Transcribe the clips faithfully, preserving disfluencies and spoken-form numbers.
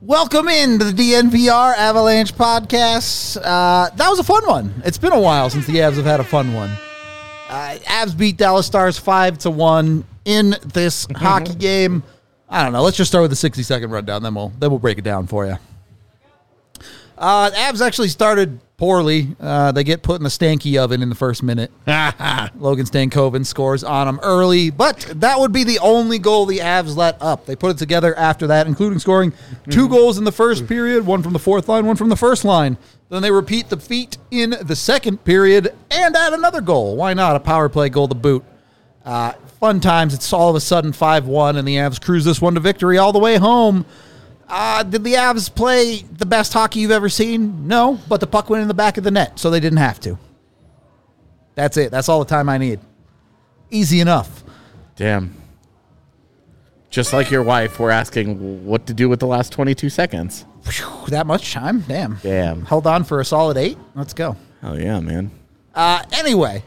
Welcome in to the D N V R Avalanche podcast. Uh, that was a fun one. It's been a while since the Avs have had a fun one. Uh, Avs beat Dallas Stars five to one in this hockey game. I don't know. Let's just start with the sixty second rundown, then we'll then we'll break it down for you. Uh, Avs actually started poorly. Uh, they get put in the stanky oven in the first minute. Logan Stankoven scores on them early, but that would be the only goal the Avs let up. They put it together after that, including scoring two goals in the first period, one from the fourth line, one from the first line. Then they repeat the feat in the second period and add another goal. Why not? A power play goal to boot. Uh, fun times. It's all of a sudden five one, and the Avs cruise this one to victory all the way home. Uh, did the Avs play the best hockey you've ever seen? No, but the puck went in the back of the net, so they didn't have to. That's it. That's all the time I need. Easy enough. Damn. Just like your wife, we're asking what to do with the last twenty-two seconds. Whew, that much time? Damn. Damn. Held on for a solid eight. Let's go. Hell yeah, man. Uh, anyway,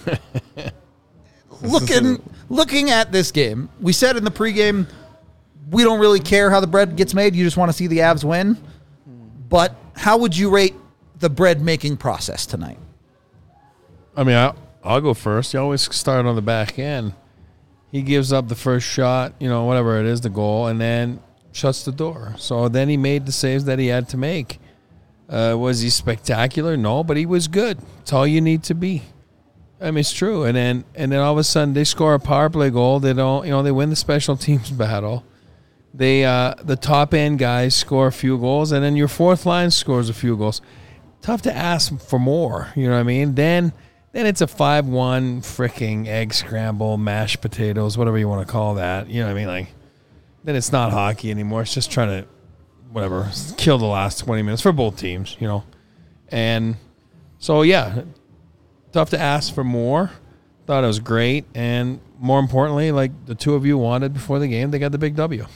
looking looking at this game, we said in the pregame, we don't really care how the bread gets made. You just want to see the Avs win. But how would you rate the bread making process tonight? I mean, I'll, I'll go first. You always start on the back end. He gives up the first shot, you know, whatever it is, the goal, and then shuts the door. So then he made the saves that he had to make. Uh, was he spectacular? No, but he was good. It's all you need to be. I mean, it's true. And then and then all of a sudden they score a power play goal. They don't, you know, they win the special teams battle. They uh, the top end guys score a few goals, and then your fourth line scores a few goals. Tough to ask for more, you know what I mean? Then then it's a five one freaking egg scramble, mashed potatoes, whatever you want to call that. You know what I mean? Like, then it's not hockey anymore. It's just trying to, whatever, kill the last twenty minutes for both teams, you know? And so, yeah, tough to ask for more. Thought it was great. And more importantly, like the two of you wanted before the game, they got the big W.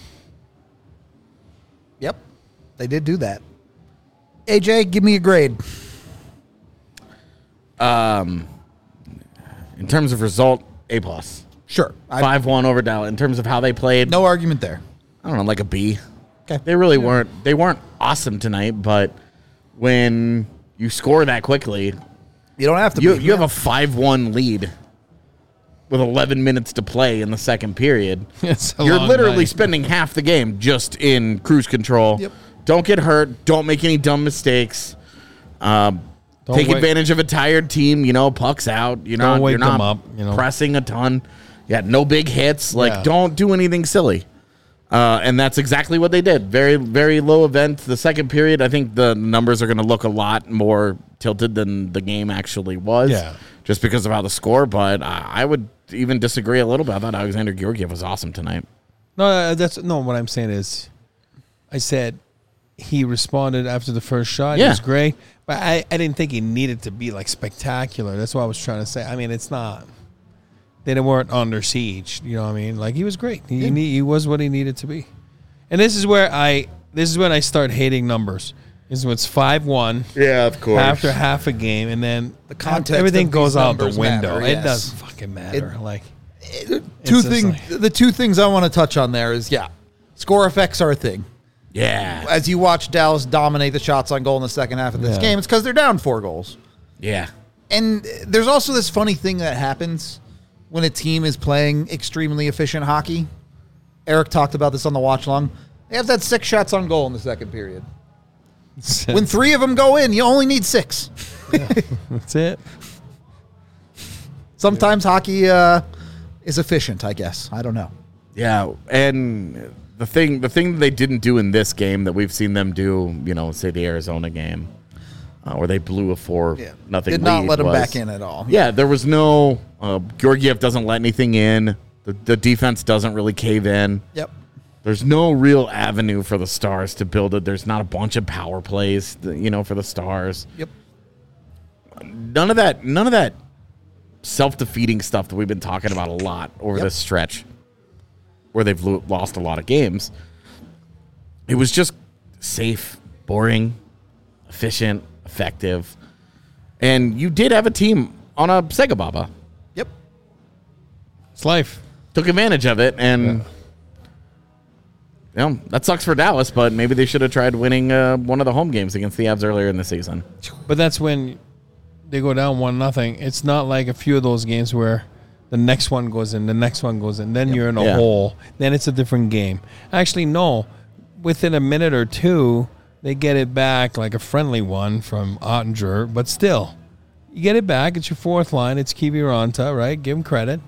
Yep, they did do that. A J, give me a grade. Um, in terms of result, A plus. Sure. Five one over Dallas. In terms of how they played, No argument there. I don't know, like a B. Okay. They really weren't. They weren't awesome tonight, but when you score that quickly, You don't have to you be. you have a five one lead with eleven minutes to play in the second period. It's a You're long literally night. spending half the game just in cruise control. Yep. Don't get hurt. Don't make any dumb mistakes. Um, Don't take wake- advantage of a tired team. You know, pucks out. You're Don't not. wake You're not them up, you know. pressing a ton. Yeah, no big hits. Like, Yeah. don't do anything silly. Uh, and that's exactly what they did. Very, very low event. The second period, I think the numbers are going to look a lot more tilted than the game actually was. Yeah. Just because of how the score. But I, I would even disagree a little bit. I thought Alexander Georgiev was awesome tonight. No, uh, that's no. What I'm saying is, I said he responded after the first shot. Yeah. He was great, but I, I didn't think he needed to be like spectacular. That's what I was trying to say. I mean, it's not. They weren't under siege. You know what I mean? Like, he was great. He Yeah. he, he was what he needed to be. And this is where I this is when I start hating numbers. This is when it's five one. Yeah, of course. After half a game, and then The context everything of goes these out the numbers window. matter, It yes. doesn't fucking matter. It- like. Two just things. like- The two things I want to touch on there is, yeah, score effects are a thing. Yeah. As you watch Dallas dominate the shots on goal in the second half of this Yeah. game, it's because they're down four goals. Yeah. And there's also this funny thing that happens when a team is playing extremely efficient hockey. Eric talked about this on the watch long. They have that six shots on goal in the second period. When three of them go in, you only need six. That's it. Sometimes hockey uh, is efficient, I guess. I don't know. Yeah, and the thing the thing that they didn't do in this game that we've seen them do, you know, say the Arizona game, uh, where they blew a four Yeah. nothing Did not lead let them was- back in at all. Yeah, there was no uh, Georgiev doesn't let anything in. The, the defense doesn't really cave in. Yep. There's no real avenue for the Stars to build it. There's not a bunch of power plays, you know, for the Stars. Yep. None of that. None of that self-defeating stuff that we've been talking about a lot over Yep. this stretch, where they've lo- lost a lot of games. It was just safe, boring, efficient, effective, and you did have a team on a Sega Baba. Yep. It's life. Took advantage of it, and know, that sucks for Dallas, but maybe they should have tried winning uh, one of the home games against the Avs earlier in the season. But that's when they go down one nothing. It's not like a few of those games where the next one goes in, the next one goes in, then yep. you're in a yeah. hole. Then it's a different game. Actually, no. Within a minute or two, they get it back like a friendly one from Ottinger, but still, you get it back. It's your fourth line. It's Kiviranta, right? Give him credit.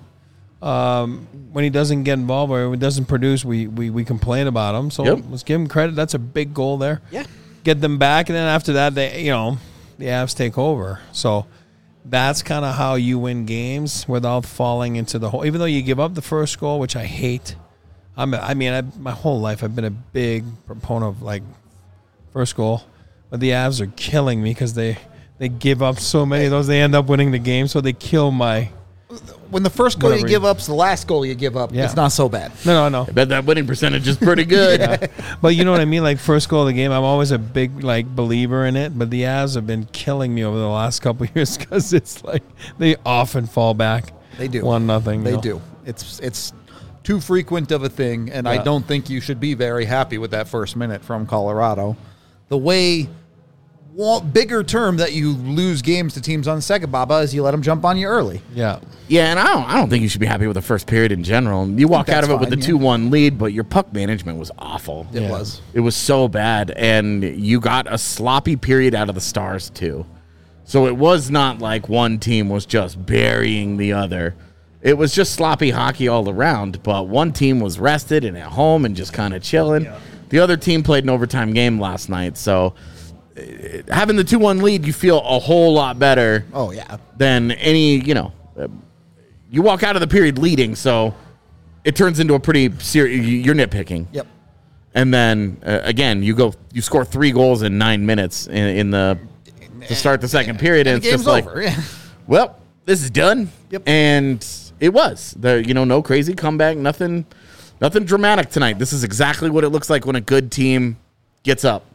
Um, when he doesn't get involved or when he doesn't produce, we, we, we complain about him. So yep. let's give him credit. That's a big goal there. Yeah. Get them back, and then after that, they you know, the Avs take over. So that's kind of how you win games without falling into the hole. Even though you give up the first goal, which I hate. I'm a, I mean, I, my whole life I've been a big proponent of, like, first goal. But the Avs are killing me because they, they give up so many of those. They end up winning the game, so they kill my... When the first goal you give up is the last goal you give up, yeah. it's not so bad. No, no, no. I bet that winning percentage is pretty good. yeah. But you know what I mean? Like, first goal of the game, I'm always a big, like, believer in it. But the Avs have been killing me over the last couple of years because it's like they often fall back. They do. One nothing. They you know? do. It's it's too frequent of a thing, and yeah. I don't think you should be very happy with that first minute from Colorado. The way... Well, bigger term that you lose games to teams on the second, Baba, is you let them jump on you early. Yeah. Yeah, and I don't I don't think you should be happy with the first period in general. You walk out of it fine, with the two one yeah. lead, but your puck management was awful. It yeah. was. It was so bad, and you got a sloppy period out of the Stars, too. So it was not like one team was just burying the other. It was just sloppy hockey all around, but one team was rested and at home and just kind of chilling. Yeah. The other team played an overtime game last night, so... having the two one lead, you feel a whole lot better. Oh, yeah. Than any, you know, uh, you walk out of the period leading, so it turns into a pretty serious, you're nitpicking. Yep. And then, uh, again, you go, you score three goals in nine minutes in, in the, to start the second period, and, and it's just like, over. Yeah. well, this is done. Yep. And it was. The, you know, no crazy comeback, nothing, nothing dramatic tonight. This is exactly what it looks like when a good team gets up.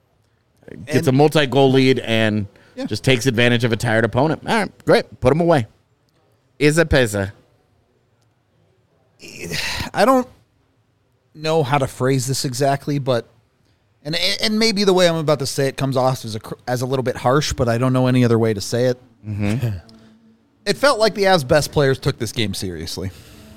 Gets and, a multi-goal lead and yeah. just takes advantage of a tired opponent. All right, great. Put them away. Iza Peza. I don't know how to phrase this exactly, but and and maybe the way I'm about to say it comes off as a as a little bit harsh, but I don't know any other way to say it. Mm-hmm. It felt like the Avs' best players took this game seriously.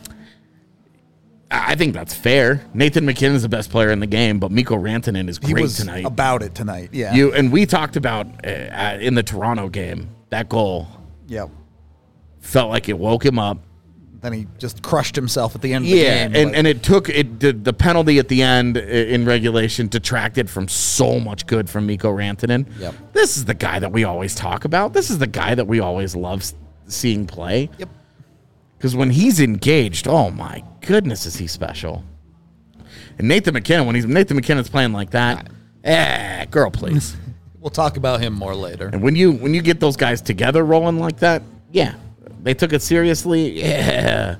I think that's fair. Nathan McKinnon is the best player in the game, but Mikko Rantanen is great he was tonight. About it tonight, yeah. You and we talked about uh, in the Toronto game that goal. Yep. Felt like it woke him up. Then he just crushed himself at the end of yeah, the game. Yeah, and, and it took it the, the penalty at the end in regulation detracted from so much good from Mikko Rantanen. Yep. This is the guy that we always talk about. This is the guy that we always love seeing play. Yep. Because when he's engaged, oh my goodness, is he special? And Nathan McKinnon, when he's Nathan McKinnon's playing like that, eh, girl, please. We'll talk about him more later. And when you when you get those guys together rolling like that, yeah, they took it seriously. Yeah,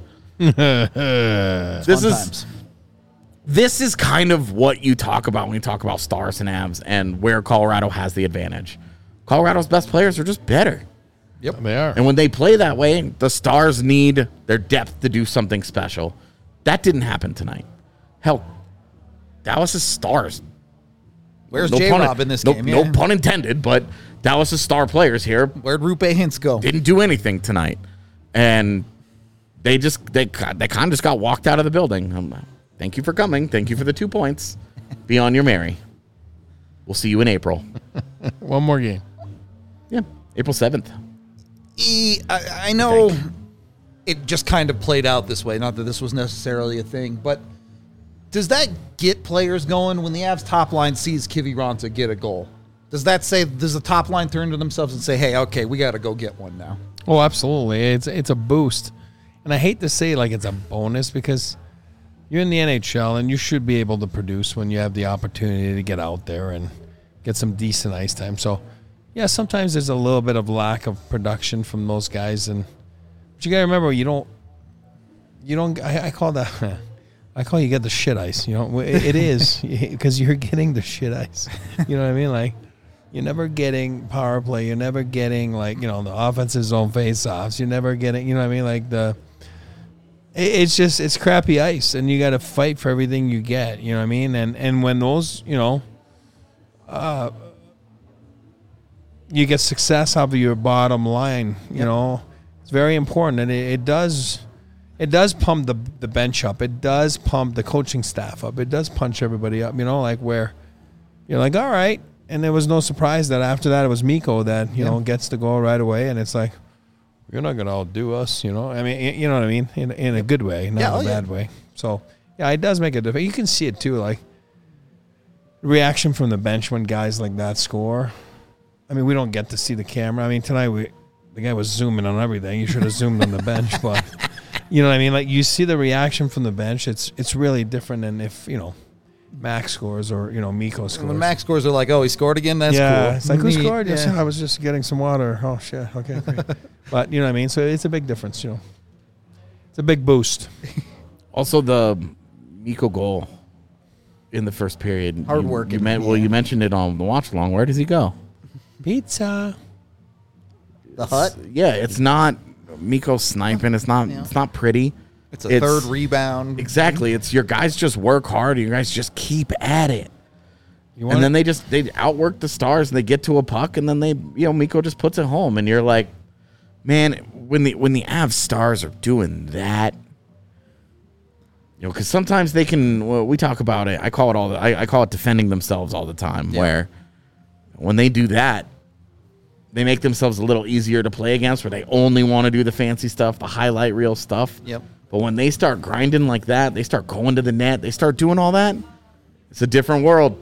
this is times. This is kind of what you talk about when you talk about Stars and Avs and where Colorado has the advantage. Colorado's best players are just better. Yep, they are. And when they play that way, the Stars need their depth to do something special. That didn't happen tonight. Hell, Dallas' Stars. Where's no J-Rob in this no, game? Yeah. No pun intended, but Dallas' star players here. Where'd Rupe Hintz go? Didn't do anything tonight. And they just, they, they kind of just got walked out of the building. Um, thank you for coming. Thank you for the two points. Be on your merry. We'll see you in April. One more game. Yeah, April seventh. E, I, I know I it just kind of played out this way. Not that this was necessarily a thing, but does that get players going when the Avs top line sees Kiviranta get a goal? Does that say, does the top line turn to themselves and say, hey, okay, we got to go get one now? Oh, absolutely. It's it's a boost. And I hate to say like it's a bonus because you're in the N H L and you should be able to produce when you have the opportunity to get out there and get some decent ice time. So, yeah, sometimes there's a little bit of lack of production from those guys, and but you gotta remember you don't, you don't. I, I call that, I call you get the shit ice. You know, it, it is because you're getting the shit ice. You know what I mean? Like you're never getting power play. You're never getting like you know the offensive zone face-offs. You're never getting. You know what I mean? Like the it, it's just it's crappy ice, and you got to fight for everything you get. You know what I mean? And and when those, you know, uh, you get success out of your bottom line. You Yep. know, it's very important, and it, it does. It does pump the the bench up. It does pump the coaching staff up. It does punch everybody up. You know, like where you're like, all right. And there was no surprise that after that it was Mikko that, you Yeah. know, gets the goal right away. And it's like, you're not going to outdo us, you know. I mean, y- you know what I mean? In, in a good way, not Yeah, a oh, yeah. bad way. So, yeah, it does make a difference. You can see it too, like reaction from the bench when guys like that score. I mean, we don't get to see the camera. I mean, tonight we the guy was zooming on everything. You should have zoomed on the bench, but you know what I mean? Like you see the reaction from the bench. It's it's really different than if, you know, Max scores or, you know, Mikko scores. And when Max scores, are like, oh, he scored again? That's yeah, cool. it's like, who Neat. scored? Yes, Yeah. I was just getting some water. Oh, shit. Okay, great. But, you know what I mean? So it's a big difference, you know. It's a big boost. Also, the Mikko goal in the first period. Hard you- work You and- meant, well, yeah. you mentioned it on the watch along. Where does he go? Pizza. The hut. Yeah, it's not Mikko sniping. It's not. Yeah. It's not pretty. It's a third rebound. Exactly. It's your guys just work hard. You guys just keep at it. You want And then they just they outwork the Stars and they get to a puck and then they you know Mikko just puts it home and you're like, man, when the when the Avs Stars are doing that, you know, because sometimes they can. Well, we talk about it. I call it all. The, I, I call it defending themselves all the time. Yeah. Where when they do that, they make themselves a little easier to play against. Where they only want to do the fancy stuff, the highlight reel stuff. Yep. But when they start grinding like that, they start going to the net, they start doing all that. It's a different world.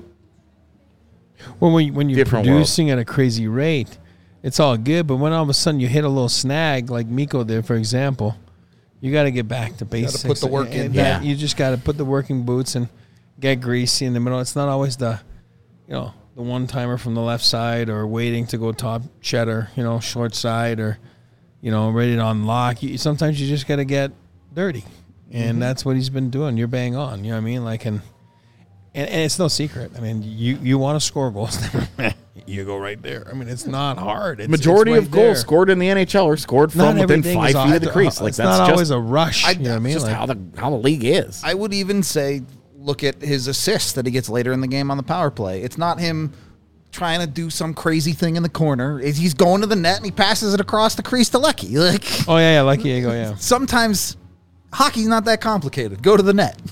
Well, when, when you're Different producing at a crazy rate, it's all good. But when all of a sudden you hit a little snag, like Mikko did, for example, you got to get back to basics. put the work in. And that- Yeah. You just got to put the working boots and get greasy in the middle. It's not always the, you know, the one timer from the left side or waiting to go top cheddar, you know, short side or, you know, ready to unlock. You, sometimes you just got to get dirty. And Mm-hmm. that's what he's been doing. You're bang on. You know what I mean? Like, and, and, and it's no secret. I mean, you, you want to score goals, you go right there. I mean, it's not hard. It's, Majority it's right of goals there. scored in the N H L are scored Not from within everything five is feet of the off- crease. Like it's that's not just, always a rush. I- you know what I mean? just Like, how the how the league is. I would even say, look at his assists that he gets later in the game on the power play. It's not him trying to do some crazy thing in the corner. It's- He's going to the net and he passes it across the crease to Lecky. Like oh yeah, yeah, like Diego, yeah. sometimes hockey's not that complicated. Go to the net.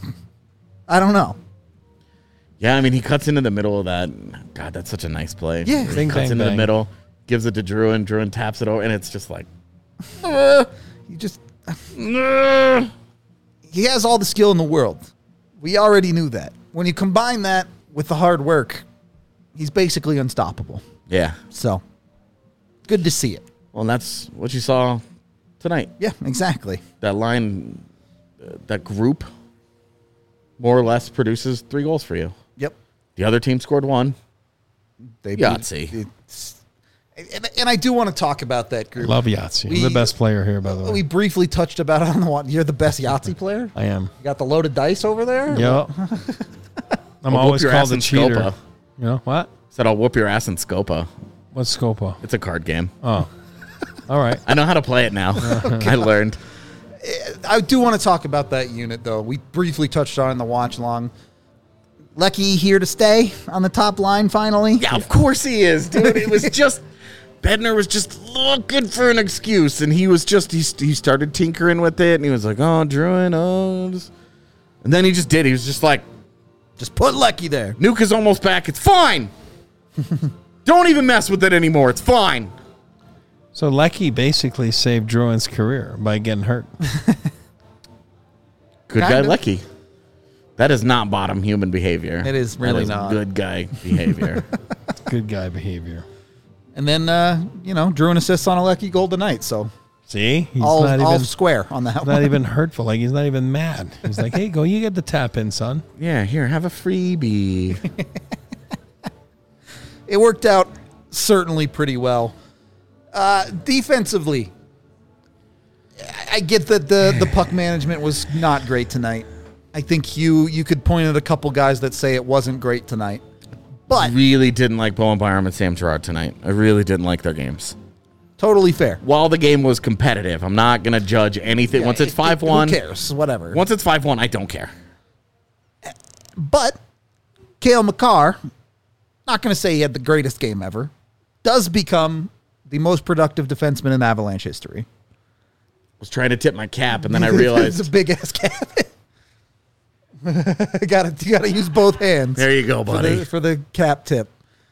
I don't know. Yeah, I mean he cuts into the middle of that. God, that's such a nice play. Yeah. he Bing, cuts bang, into the bang. middle, gives it to Druin. Druin taps it over, and it's just like, Uh, you just "Nah." he has all the skill in the world. We already knew that. When you combine that with the hard work, he's basically unstoppable. yeah. So good to see it. Well, and that's what you saw tonight. Yeah, exactly. That line, uh, that group, more or less produces three goals for you. Yep. The other team scored one. They Yahtzee. beat- it's- And, and I do want to talk about that group. Love Yahtzee. I'm We- the best player here, by the way. We briefly touched about it on the one. You're the best Yahtzee player. I am. You got the loaded dice over there. Yeah. I'm I'll always whoop your called ass a in cheater. Scopa. You know what? Said I'll whoop your ass in Scopa. What's Scopa? It's a card game. Oh, all right. I know how to play it now. I learned. I do want to talk about that unit though. We briefly touched on it in the watch long. Lecky here to stay on the top line finally. Yeah, of course he is, dude. It was just Bednar was just looking for an excuse, and he was just he, he started tinkering with it, and he was like, "Oh, Druin, oh," just-" and then he just did. He was just like, Just put Lecky there. "Nuke is almost back. It's fine. Don't even mess with it anymore. It's fine." So Lecky basically saved Druin's career by getting hurt. Good Kind guy, of. Lecky. That is not bottom human behavior. It is That really is not. good guy behavior. Good guy behavior. And then uh, you know, drew an assist on a Lecky goal tonight. So See, he's all not all even square on that not one. even hurtful. Like he's not even mad. He's like, "Hey, go, you get the tap in, son." Yeah, here, have a freebie. It worked out certainly pretty well. Uh, defensively, I- I get that the, the puck management was not great tonight. I think you you could point at a couple guys that say it wasn't great tonight. But Really didn't like Bowen Byram and Sam Gerard tonight. I really didn't like their games. Totally fair. While the game was competitive, I'm not going to judge anything. Yeah, Once it's it- five it- one, Who cares? Whatever. once it's five one, I don't care. But Cale Makar, not going to say he had the greatest game ever, does become the most productive defenseman in Avalanche history. Was trying to tip my cap, and then I It's realized, a big ass cap. gotta, you got to use both hands. there you go, for buddy. the, for the cap tip.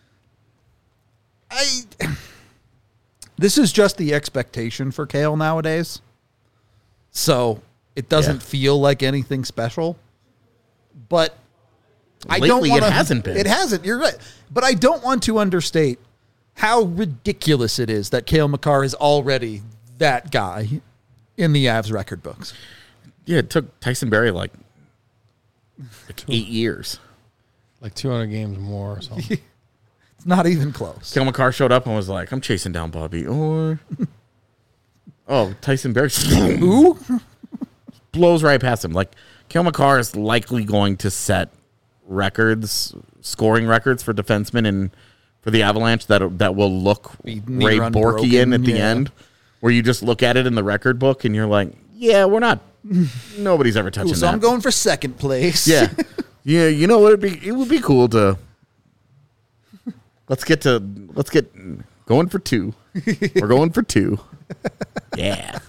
I. This is just the expectation for Cale nowadays. So it doesn't Yeah. feel like anything special. But I Lately, don't it want to. hasn't been. It hasn't. You're right. But I don't want to understate how ridiculous it is that Cale Makar is already that guy in the Avs record books. Yeah, it took Tyson Berry like, like eight years. Like two hundred games more or something. It's not even close. Cale Makar showed up and was like, I'm chasing down Bobby Orr. Oh, Tyson Berry Who? blows right past him. Like, Cale Makar is likely going to set records, scoring records for defensemen and for the Avalanche that that will look Be near Ray unbroken, Borkian at the yeah. end, where you just look at it in the record book and you're like, yeah, we're not, nobody's ever touching So that. I'm going for second place. Yeah. Yeah, you know, it'd be it would be cool to let's get to let's get going for two. We're going for two. Yeah.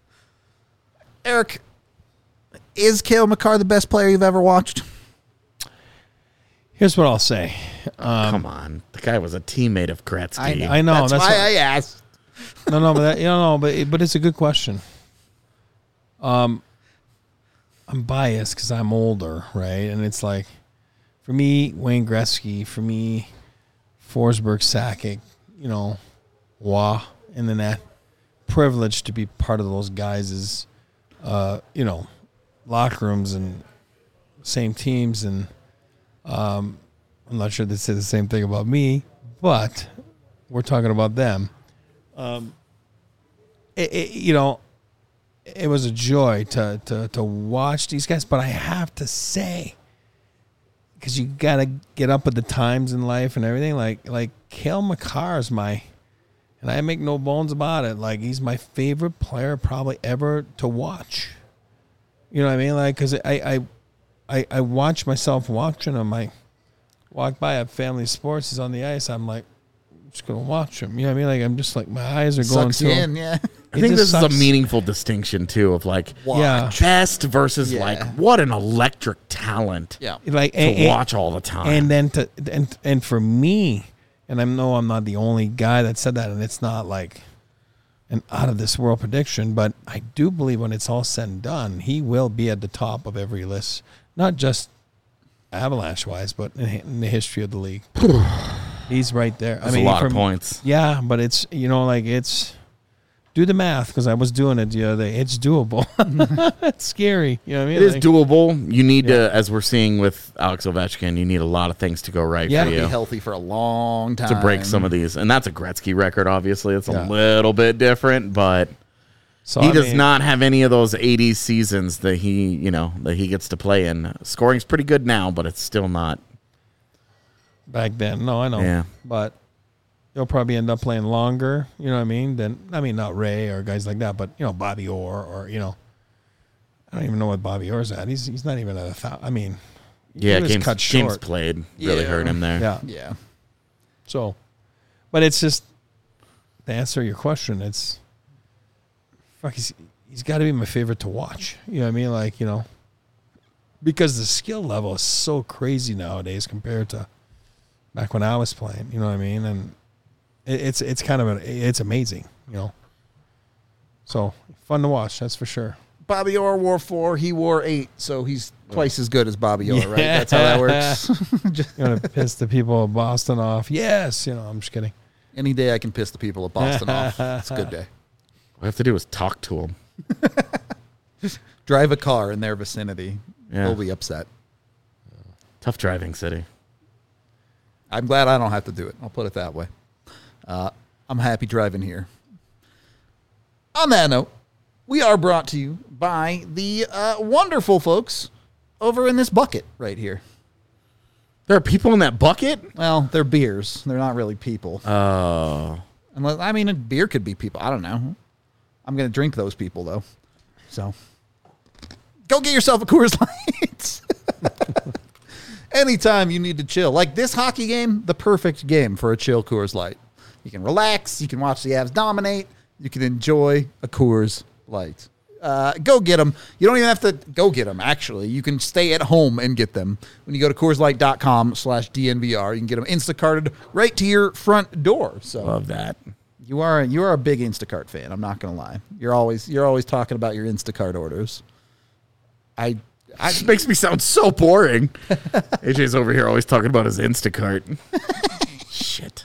Eric, is Cale Makar the best player you've ever watched? Here's what I'll say. Come on. The guy was a teammate of Gretzky. I know. I know, That's, that's why what- I asked. No, no, but that, you know, no, but it, but it's a good question. Um, I'm biased because I'm older, right? And it's like, for me, Wayne Gretzky. For me, Forsberg, Sakic. You know, Wah in the net. Privileged to be part of those guys' uh, you know, locker rooms and same teams, and um, I'm not sure they say the same thing about me, but we're talking about them. Um, it, it, you know, it was a joy to, to, to watch these guys, but I have to say, because you got to get up with the times in life and everything, like, like Cale Makar is my, and I make no bones about it, like, he's my favorite player probably ever to watch. You know what I mean? Like, because I, I, I, I watch myself watching him. I walk by at Family Sports, he's on the ice, I'm like, just gonna watch him. You know what I mean? Like, I'm just like, my eyes are going Sucks to you him. in, yeah. I think It this just is sucks. a meaningful distinction too of like Yeah. best versus Yeah. like what an electric talent Yeah. Like, to and, and- watch all the time. and then to and and for me, and I know I'm not the only guy that said that, and it's not like an out of this world prediction, but I do believe when it's all said and done, he will be at the top of every list, not just Avalanche wise, but in, in the history of the league. He's right there. That's I mean, a lot of from- points. Yeah, but it's, you know, like, it's, do the math, because I was doing it the other day. It's doable. It's scary. You know what I mean? It is Like, doable. You need Yeah. to, as we're seeing with Alex Ovechkin, you need a lot of things to go right Yeah. for Be you healthy for a long time. to break some of these. And that's a Gretzky record, obviously. It's a Yeah. little bit different, but so, he I does mean, not have any of those eighties seasons that he, you know, that he gets to play in. Scoring's pretty good now, but it's still not. back then. No, I know. Yeah. But he'll probably end up playing longer, you know what I mean? Than, I mean, not Ray or guys like that, but, you know, Bobby Orr or, you know, I don't even know what Bobby Orr's at. He's he's not even at a thousand. I mean, Yeah, he was games, cut games short. played really Yeah. hurt him there. Yeah. Yeah. So, but it's just, to answer your question, it's, fuck, he's, he's got to be my favorite to watch. You know what I mean? Like, you know, because the skill level is so crazy nowadays compared to back when I was playing. You know what I mean? And it, it's it's kind of a, it's amazing. You know. So fun to watch, that's for sure. Bobby Orr wore four. He wore eight, so he's twice as good as Bobby Orr, right? Yeah. That's how that works. Just- You want to piss the people of Boston off? Yes. You know, I'm just kidding. Any day I can piss the people of Boston off. It's a good day. All I have to do is talk to him. Drive a car in their vicinity. Yeah. They'll be upset. Tough driving city. I'm glad I don't have to do it. I'll put it that way. Uh, I'm happy driving here. On that note, we are brought to you by the uh, wonderful folks over in this bucket right here. There are people in that bucket? Well, they're beers. They're not really people. Oh. Unless I mean, a beer could be people. I don't know. I'm gonna drink those people though. So go get yourself a Coors Light. Anytime you need to chill, like this hockey game, the perfect game for a chill Coors Light. You can relax. You can watch the Avs dominate. You can enjoy a Coors Light. Uh, go get them. You don't even have to go get them, actually. You can stay at home and get them. When you go to CoorsLight.com slash DNVR, you can get them Instacarted right to your front door. So Love that. You are you are a big Instacart fan. I'm not going to lie. You're always you're always talking about your Instacart orders. I, I It makes me sound so boring. A J's over here always talking about his Instacart. Shit.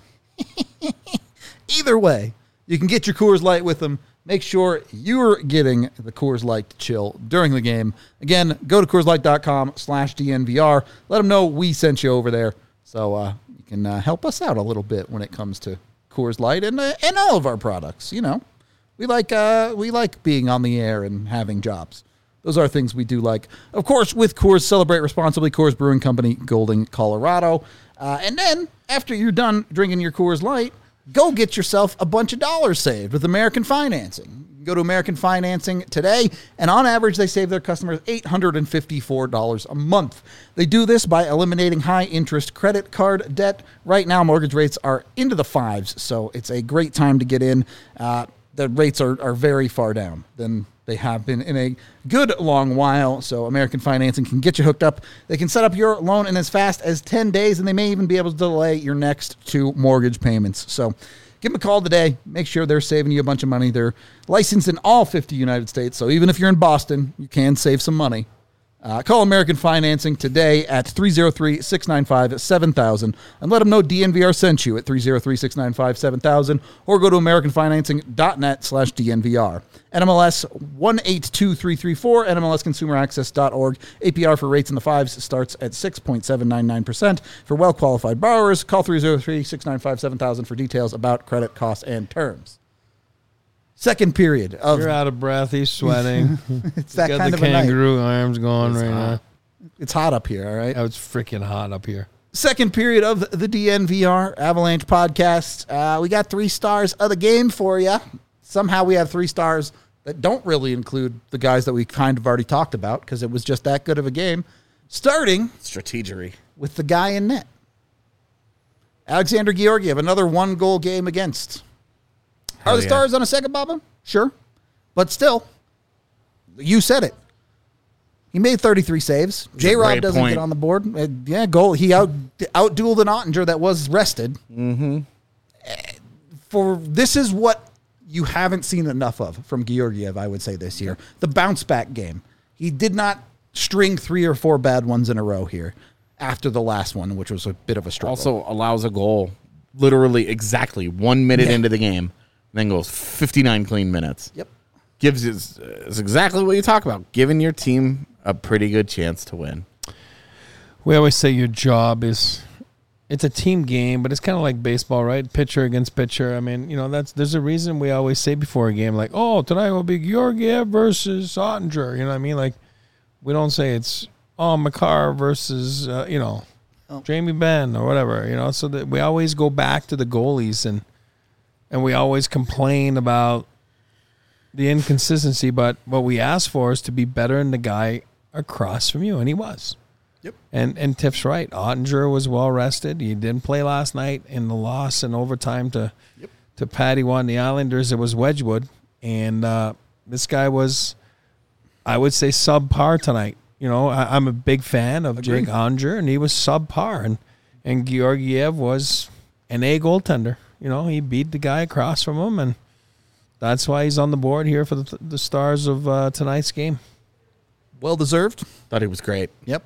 Either way, you can get your Coors Light with them. Make sure you're getting the Coors Light to chill during the game. Again, go to CoorsLight.com slash DNVR. Let them know we sent you over there so uh, you can uh, help us out a little bit when it comes to Coors Light and uh, and all of our products. You know, we like uh, we like being on the air and having jobs. Those are things we do like. Of course, with Coors, celebrate responsibly. Coors Brewing Company, Golden, Colorado. Uh, and then after you're done drinking your Coors Light, go get yourself a bunch of dollars saved with American Financing. You can go to American Financing today, and on average, they save their customers eight hundred fifty-four dollars a month. They do this by eliminating high-interest credit card debt. Right now, mortgage rates are into the fives, so it's a great time to get in. Uh, the rates are, are very far down than they have been in a good long while, so American Financing can get you hooked up. They can set up your loan in as fast as ten days, and they may even be able to delay your next two mortgage payments. So give them a call today. Make sure they're saving you a bunch of money. They're licensed in all fifty United States, so even if you're in Boston, you can save some money. Uh, call American Financing today at three oh three, six nine five, seven thousand and let them know D N V R sent you at three oh three, six nine five, seven thousand or go to americanfinancing.net slash DNVR. N M L S one eight two three three four, N M L S consumer access dot org. A P R for rates in the fives starts at six point seven nine nine percent. For well-qualified borrowers, call three oh three, six nine five, seven thousand for details about credit costs and terms. Second period of You're out of breath. He's sweating. it's that Got kind the of a night. kangaroo arms going right now. It's hot up here, all right? Oh, it's freaking hot up here. Second period of the D N V R Avalanche podcast. Uh, we got three stars of the game for you. Somehow we have three stars that don't really include the guys that we kind of already talked about because it was just that good of a game. Starting Strategery. with the guy in net. Alexander Georgiev, another one-goal game against. Hell Are the yeah. stars on a second, Bubba? Sure. But still, you said it. He made thirty-three saves. J-Rob great doesn't point. get on the board. Uh, yeah, goal. He out outdueled an Ottinger that was rested. Mm-hmm. For this is what you haven't seen enough of from Georgiev, I would say, this year. The bounce-back game. He did not string three or four bad ones in a row here after the last one, which was a bit of a struggle. Also allows a goal literally exactly one minute Yeah. into the game, then goes fifty-nine clean minutes. Yep. Gives is, is exactly what you talk about, giving your team a pretty good chance to win. We always say your job is, it's a team game, but it's kind of like baseball, right? Pitcher against pitcher. I mean, you know, that's there's a reason we always say before a game, like, oh, tonight will be Georgiev versus Ottinger. You know what I mean? Like, we don't say it's, oh, Makar versus, uh, you know, Oh. Jamie Benn or whatever, you know, so that we always go back to the goalies and and we always complain about the inconsistency, but what we ask for is to be better than the guy across from you, and he was. Yep. And and Tiff's right. Ottinger was well rested. He didn't play last night in the loss in overtime to Yep. to Patty one. The Islanders, it was Wedgwood, and uh, this guy was, I would say, subpar tonight. You know, I, I'm a big fan of Agreed. Jake Ottinger, and he was subpar, and and Georgiev was an A goaltender. You know, he beat the guy across from him, and that's why he's on the board here for the, the stars of uh, tonight's game. Well deserved. Thought he was great. Yep.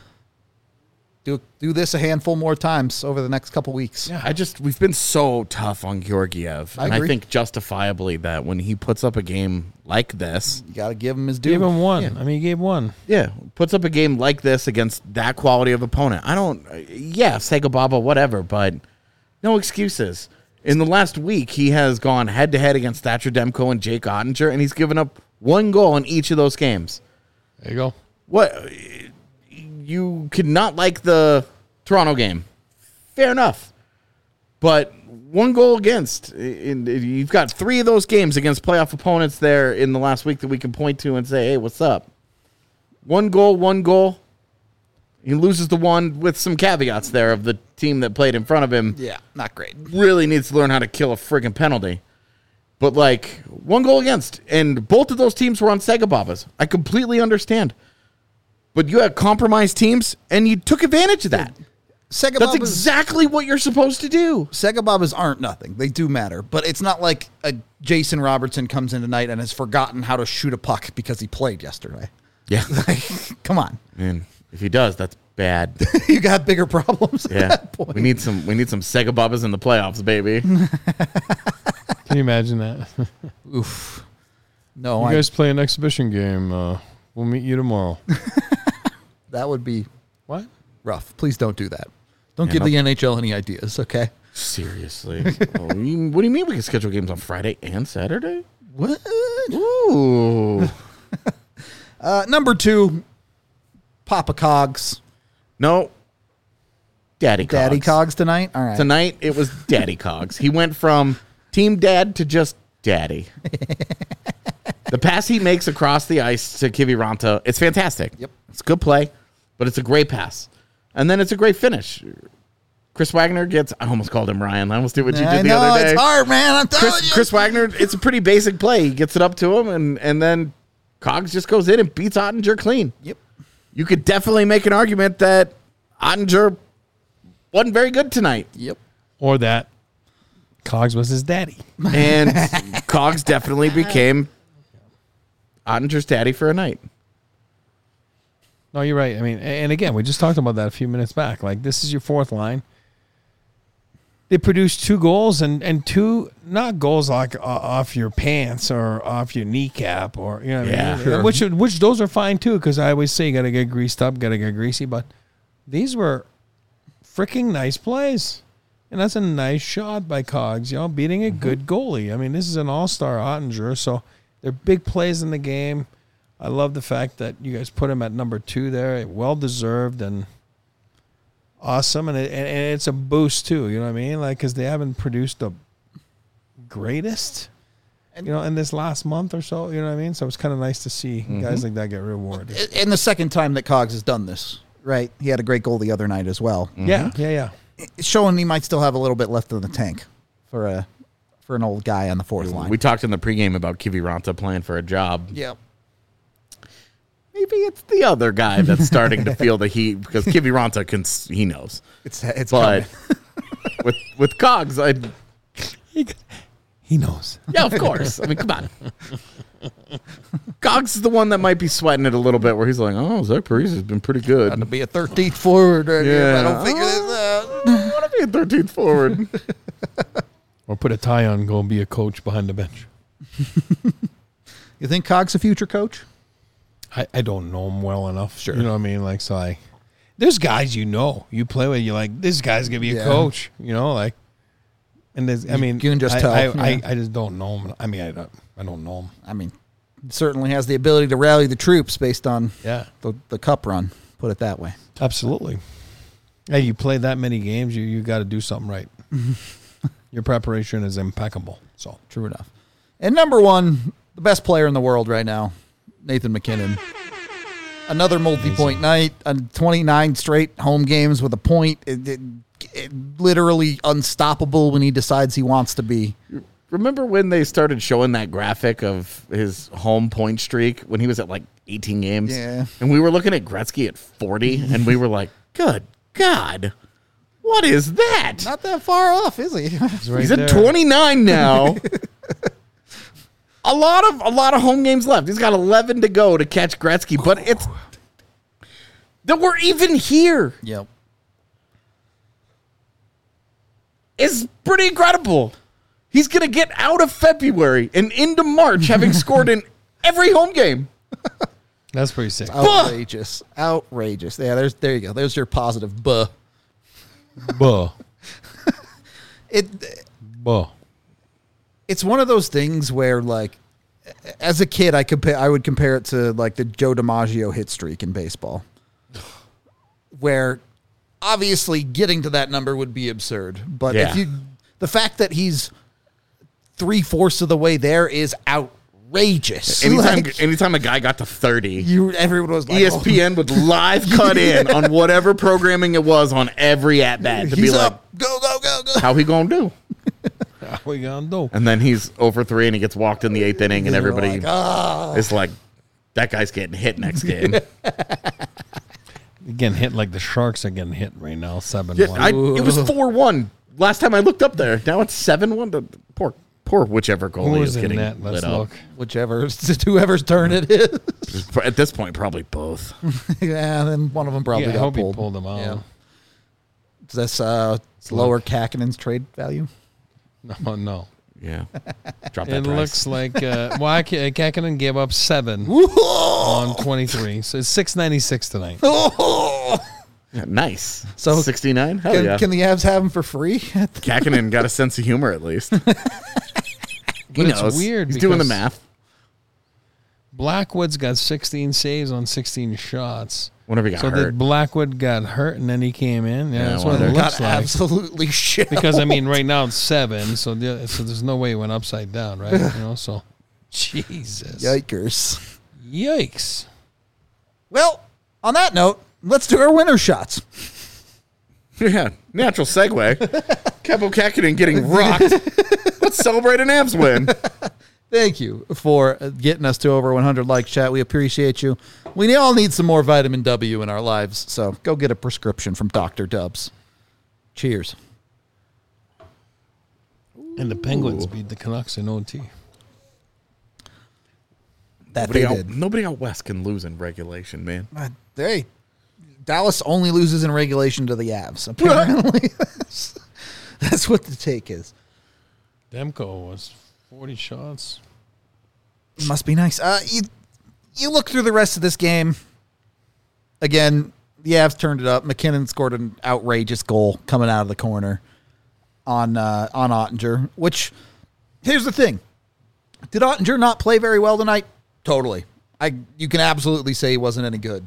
Do do this a handful more times over the next couple weeks. Yeah, I just we've been so tough on Georgiev, I and agree. I think justifiably that when he puts up a game like this, You got to give him his due. Give him one. Yeah. I mean, he gave one. yeah, puts up a game like this against that quality of opponent. I don't, yeah, Sega Baba, whatever, but no excuses. In the last week, he has gone head to head against Thatcher Demko and Jake Ottinger, and he's given up one goal in each of those games. There you go. What? You could not like the Toronto game. Fair enough. But one goal against. In, in, you've got three of those games against playoff opponents there in the last week that we can point to and say, hey, what's up? One goal, one goal. He loses the one with some caveats there of the team that played in front of him. Yeah, not great. Really needs to learn how to kill a friggin' penalty. But, like, one goal against. And both of those teams were on Segababas. I completely understand. But you had compromised teams, and you took advantage of that. Segababas, That's exactly what you're supposed to do. Segababas aren't nothing. They do matter. But it's not like a Jason Robertson comes in tonight and has forgotten how to shoot a puck because he played yesterday. Yeah. Like, come on. Man, if he does, that's bad. You got bigger problems at Yeah. that point. We need some we need some Segababas in the playoffs, baby. Can you imagine that? Oof. No, You I, guys play an exhibition game. Uh, we'll meet you tomorrow. that would be What? rough. Please don't do that. Don't Yeah, give no. the N H L any ideas, okay? Seriously. Oh, you- what do you mean we can schedule games on Friday and Saturday? What? Ooh. Uh, number two, Papa Cogs. No. Daddy Cogs. Daddy Cogs tonight? All right. Tonight, it was Daddy Cogs. He went from team dad to just daddy. The pass he makes across the ice to Kiviranta, it's fantastic. Yep. It's a good play, but it's a great pass. And then it's a great finish. Chris Wagner gets, I almost called him Ryan. I almost did what you I did the know, other day. it's hard, man. I'm telling Chris, you. Chris Wagner, it's a pretty basic play. He gets it up to him, and, and then Cogs just goes in and beats Ottinger clean. Yep. You could definitely make an argument that Ottinger wasn't very good tonight. Yep. Or that Cogs was his daddy. And Cogs definitely became Ottinger's daddy for a night. No, you're right. I mean, and again, we just talked about that a few minutes back. Like, this is your fourth line. They produced two goals and, and two, not goals like uh, off your pants or off your kneecap or, you know what Yeah, I mean? sure. Which, which those are fine too, because I always say you got to get greased up, got to get greasy. But these were freaking nice plays. And that's a nice shot by Cogs, you know, beating a good goalie. I mean, this is an all-star Ottinger, so they're big plays in the game. I love the fact that you guys put him at number two there. Well-deserved and awesome. And, it, and it's a boost, too, you know what I mean? Like, because they haven't produced the greatest, you know, in this last month or so, you know what I mean? So it's kind of nice to see guys like that get rewarded. And the second time that Cogs has done this, right? He had a great goal the other night as well. Yeah, yeah, yeah. It's showing he might still have a little bit left in the tank for a for an old guy on the fourth line. We talked in the pregame about Kiviranta playing for a job. yeah. Maybe it's the other guy that's starting to feel the heat because Kiviranta can, he knows. It's it's But coming. with with Cogs, I He knows. yeah, of course. I mean, come on. Cogs is the one that might be sweating it a little bit, where he's like, "Oh, Zach Parise has been pretty good." to be a thirteenth forward right here if I Yeah. don't figure this out. I want to be a thirteenth forward. Or put a tie on and go be a coach behind the bench. You think Cogs a future coach? I, I don't know him well enough. Sure. You know what I mean? Like, so I, there's guys you know, you play with, you're like, this guy's going to be a Yeah. coach, you know, like, and there's, I mean, you can just I, tell, I, yeah. I, I just don't know him. I mean, I don't, I don't know him. I mean, certainly has the ability to rally the troops based on Yeah. the, the cup run. Put it that way. Absolutely. Hey, you play that many games, you, you got to do something right. Your preparation is impeccable. So, True enough. And number one, the best player in the world right now, Nathan McKinnon. Another multi-point night, and twenty-nine straight home games with a point. It, it, it, literally unstoppable when he decides he wants to be. Remember when they started showing that graphic of his home point streak when he was at like eighteen games? Yeah. And we were looking at Gretzky at forty, and we were like, "Good God, what is that?" Not that far off, is he? it's right He's there. at twenty-nine now. a lot of a lot of home games left. He's got eleven to go to catch Gretzky, but it's that we're even here Yep. is pretty incredible. He's gonna get out of February and into March having scored in every home game. That's pretty sick. Outrageous. Outrageous. Yeah, there's there you go. There's your positive buh. Buh. It Buh. it's one of those things where, like, as a kid, I compare I would compare it to like the Joe DiMaggio hit streak in baseball, where obviously getting to that number would be absurd. But Yeah. if you The fact that he's three-fourths of the way there is outrageous. Anytime, Like, anytime a guy got to thirty, you, everyone was like, E S P N would live cut in on whatever programming it was on every at bat to he's be like, up. Go, go, go, go. how he gonna do? How we gonna do? And then he's over three and he gets walked in the eighth inning, and You're everybody like, "Ah." is like, that guy's getting hit next game. You're getting hit like the Sharks are getting hit right now. Seven Yeah, one. I, it was four one last time I looked up there. Now it's seven one. Poor, poor whichever goalie Who's is in getting net? Let's lit look. up. Whichever, whoever's turn it is. At this point, probably both. Yeah, then one of them probably Yeah, I got hope pulled. he pulled them out. Yeah. Is this uh, lower Kakinen's trade value? No, no. Yeah. Drop that It price. looks like uh, well, Kakinen gave up seven on twenty-three, so it's six ninety six tonight. Yeah, nice. So- sixty-nine? Hell Can, yeah. can the Avs have him for free? Kakinen got a sense of humor at least. he But it's knows. weird He's doing the because- math. Blackwood's got sixteen saves on sixteen shots. Whenever he got So hurt. did Blackwood got hurt and then he came in? Yeah, Yeah, that's well, what it there- Got looks like. absolutely shit. Because I mean, right now it's seven, so the, so there's no way it went upside down, right? You know, so Jesus, Yikers. yikes! Well, on that note, let's do our winner shots. Yeah, natural segue. Capo Kakinen getting rocked. Let's celebrate an Avs win. Thank you for getting us to over one hundred likes, chat. We appreciate you. We all need some more vitamin W in our lives, so go get a prescription from Doctor Dubs. Cheers. And the Penguins beat the Canucks in O T. That Nobody they out, did. nobody out west can lose in regulation, man. Uh, Hey, Dallas only loses in regulation to the Avs. Apparently, that's, that's what the take is. Demko was forty shots. Must be nice. Uh, you you look through the rest of this game. Again, the Avs turned it up. McKinnon scored an outrageous goal coming out of the corner on uh, on Ottinger. Which, here's the thing: did Ottinger not play very well tonight? Totally. I you can absolutely say he wasn't any good.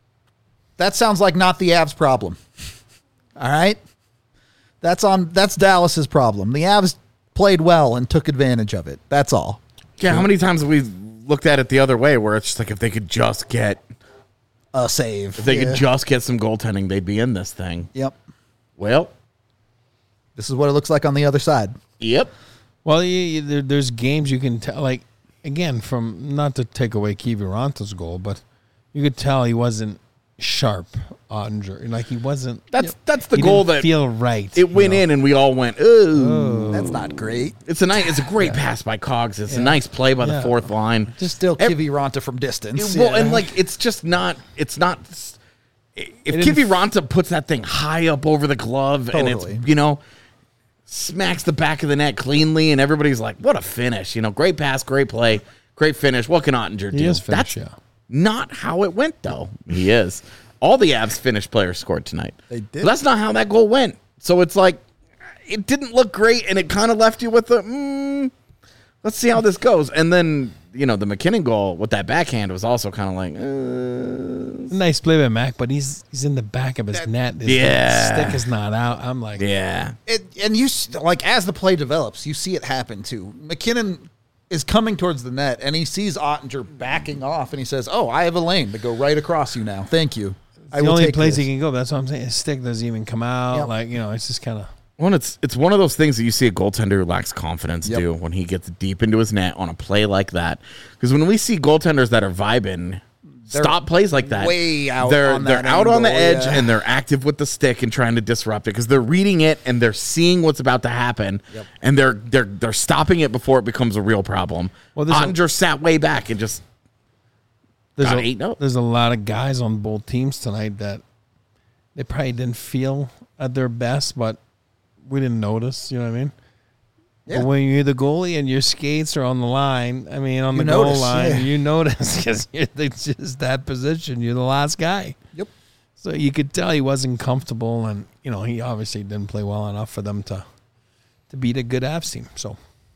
That sounds like not the Avs' problem. All right, that's on that's Dallas's problem. The Avs played well and took advantage of it. That's all. Yeah, how many times have we looked at it the other way where it's just like if they could just get A save. if they Yeah. could just get some goaltending, they'd be in this thing. Yep. Well, This is what it looks like on the other side. yep. Well, you, you, there, there's games you can tell. Like again, from not to take away Kiviranta's goal, but you could tell he wasn't sharp, Ottinger. Like he wasn't. That's you know, that's the he goal didn't that feel right. it went you know? in and we all went, ooh. That's not great. It's a nice it's a great pass by Cogs. It's a nice play by Yeah. the fourth line. Just still Ev- Kiviranta from distance. Well, yeah. and like it's just not. It's not. If didn't Kivi Ranta puts that thing high up over the glove and Totally. it's you know smacks the back of the net cleanly, and everybody's like, "What a finish!" You know, great pass, great play, great finish. What can Ottinger do? He is That's finished, yeah. not how it went, though. He is. All the Avs finished players scored tonight. They did. But that's not how that goal went. So it's like it didn't look great, and it kind of left you with a. Mm, let's see how this goes, and then. You know, the McKinnon goal with that backhand was also kind of like, uh, Nice play by Mac, but he's he's in the back of his net. His Yeah. stick is not out. I'm like, yeah. It, and you s- like as the play develops, you see it happen too. McKinnon is coming towards the net, and he sees Ottinger backing off, and he says, "Oh, I have a lane to go right across you now. Thank you. I the will only take place this." he can go. That's what I'm saying. His stick doesn't even come out. Yep. Like you know, it's just kind of. Well, it's it's one of those things that you see a goaltender who lacks confidence Yep. do when he gets deep into his net on a play like that. Because when we see goaltenders that are vibing, They're stop plays like that. way out They're on they're that out on the angle, edge yeah. and they're active with the stick and trying to disrupt it because they're reading it and they're seeing what's about to happen Yep. and they're they're they're stopping it before it becomes a real problem. Well, Well, there's a- Ottinger sat way back and just There's Got a, eight, no. there's a lot of guys on both teams tonight that they probably didn't feel at their best, but we didn't notice. You know what I mean? Yeah. But when you're the goalie and your skates are on the line, I mean, on You the goal notice, line, yeah. you notice because it's just that position. You're the last guy. Yep. So you could tell he wasn't comfortable, and you know he obviously didn't play well enough for them to to beat a good Avs team. So it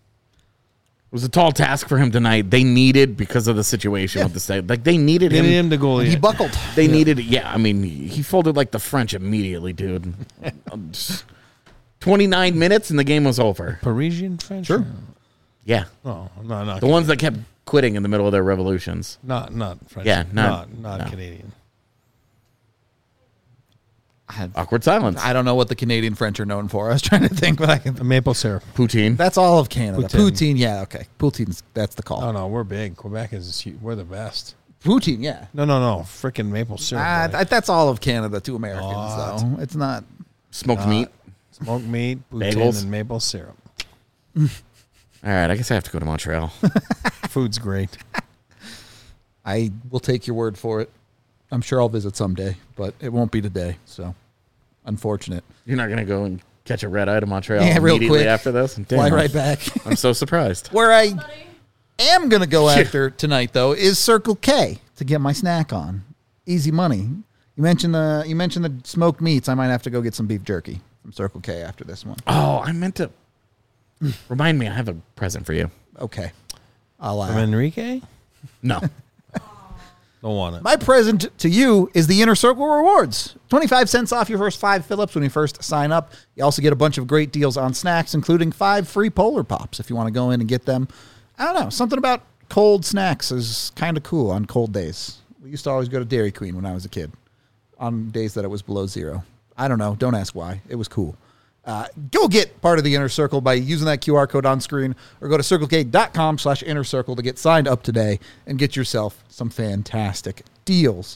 was a tall task for him tonight. They needed because of the situation Yeah. with the state. Like they needed they him. need him to goalie. He it. buckled. They needed it. Yeah, I mean, he folded like the French immediately, dude. I'm just twenty-nine minutes and the game was over. Parisian French? Sure. Yeah. No, no, not The ones that kept quitting in the middle of their revolutions. not not French. Yeah, not not- not no. Canadian. I, Awkward silence. I don't know what the Canadian French are known for. I was trying to think, but I can. Maple syrup. Poutine. That's all of Canada. Poutine. Poutine, yeah, okay. Poutine's that's the call. Oh no, we're big. Quebec is huge. We're the best. Poutine, yeah. No, no, no. Freaking maple syrup. Ah, boy. that, that's all of Canada to Americans, Not. though. It's not. Smoked meat. Smoked meat, poutine, Bagels. and maple syrup. All right, I guess I have to go to Montreal. Food's great. I will take your word for it. I'm sure I'll visit someday, but it won't be today. So, unfortunate. You're not going to go and catch a red eye to Montreal Yeah, real immediately quick. after this? Damn, Fly right back. I'm so surprised. Where I am going to go after tonight, though, is Circle K to get my snack on. Easy money. You mentioned the you mentioned the smoked meats. I might have to go get some beef jerky from Circle K after this one. Oh, I meant to. Remind me, I have a present for you. Okay. I'll, From uh, Enrique? No. Don't want it. my present to you is the Inner Circle Rewards. twenty-five cents off your first five fill-ups when you first sign up. You also get a bunch of great deals on snacks, including five free Polar Pops if you want to go in and get them. I don't know. Something about cold snacks is kind of cool on cold days. We used to always go to Dairy Queen when I was a kid on days that it was below zero. I don't know. Don't ask why. It was cool. Uh, go get part of the Inner Circle by using that Q R code on screen or go to circlek.com slash inner circle to get signed up today and get yourself some fantastic deals.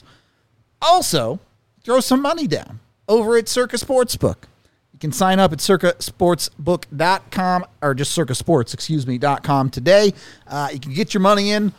Also, throw some money down over at Circa Sportsbook. You can sign up at circa sportsbook dot com or just Circa Sports, excuse me, dot com today. Uh, you can get your money in.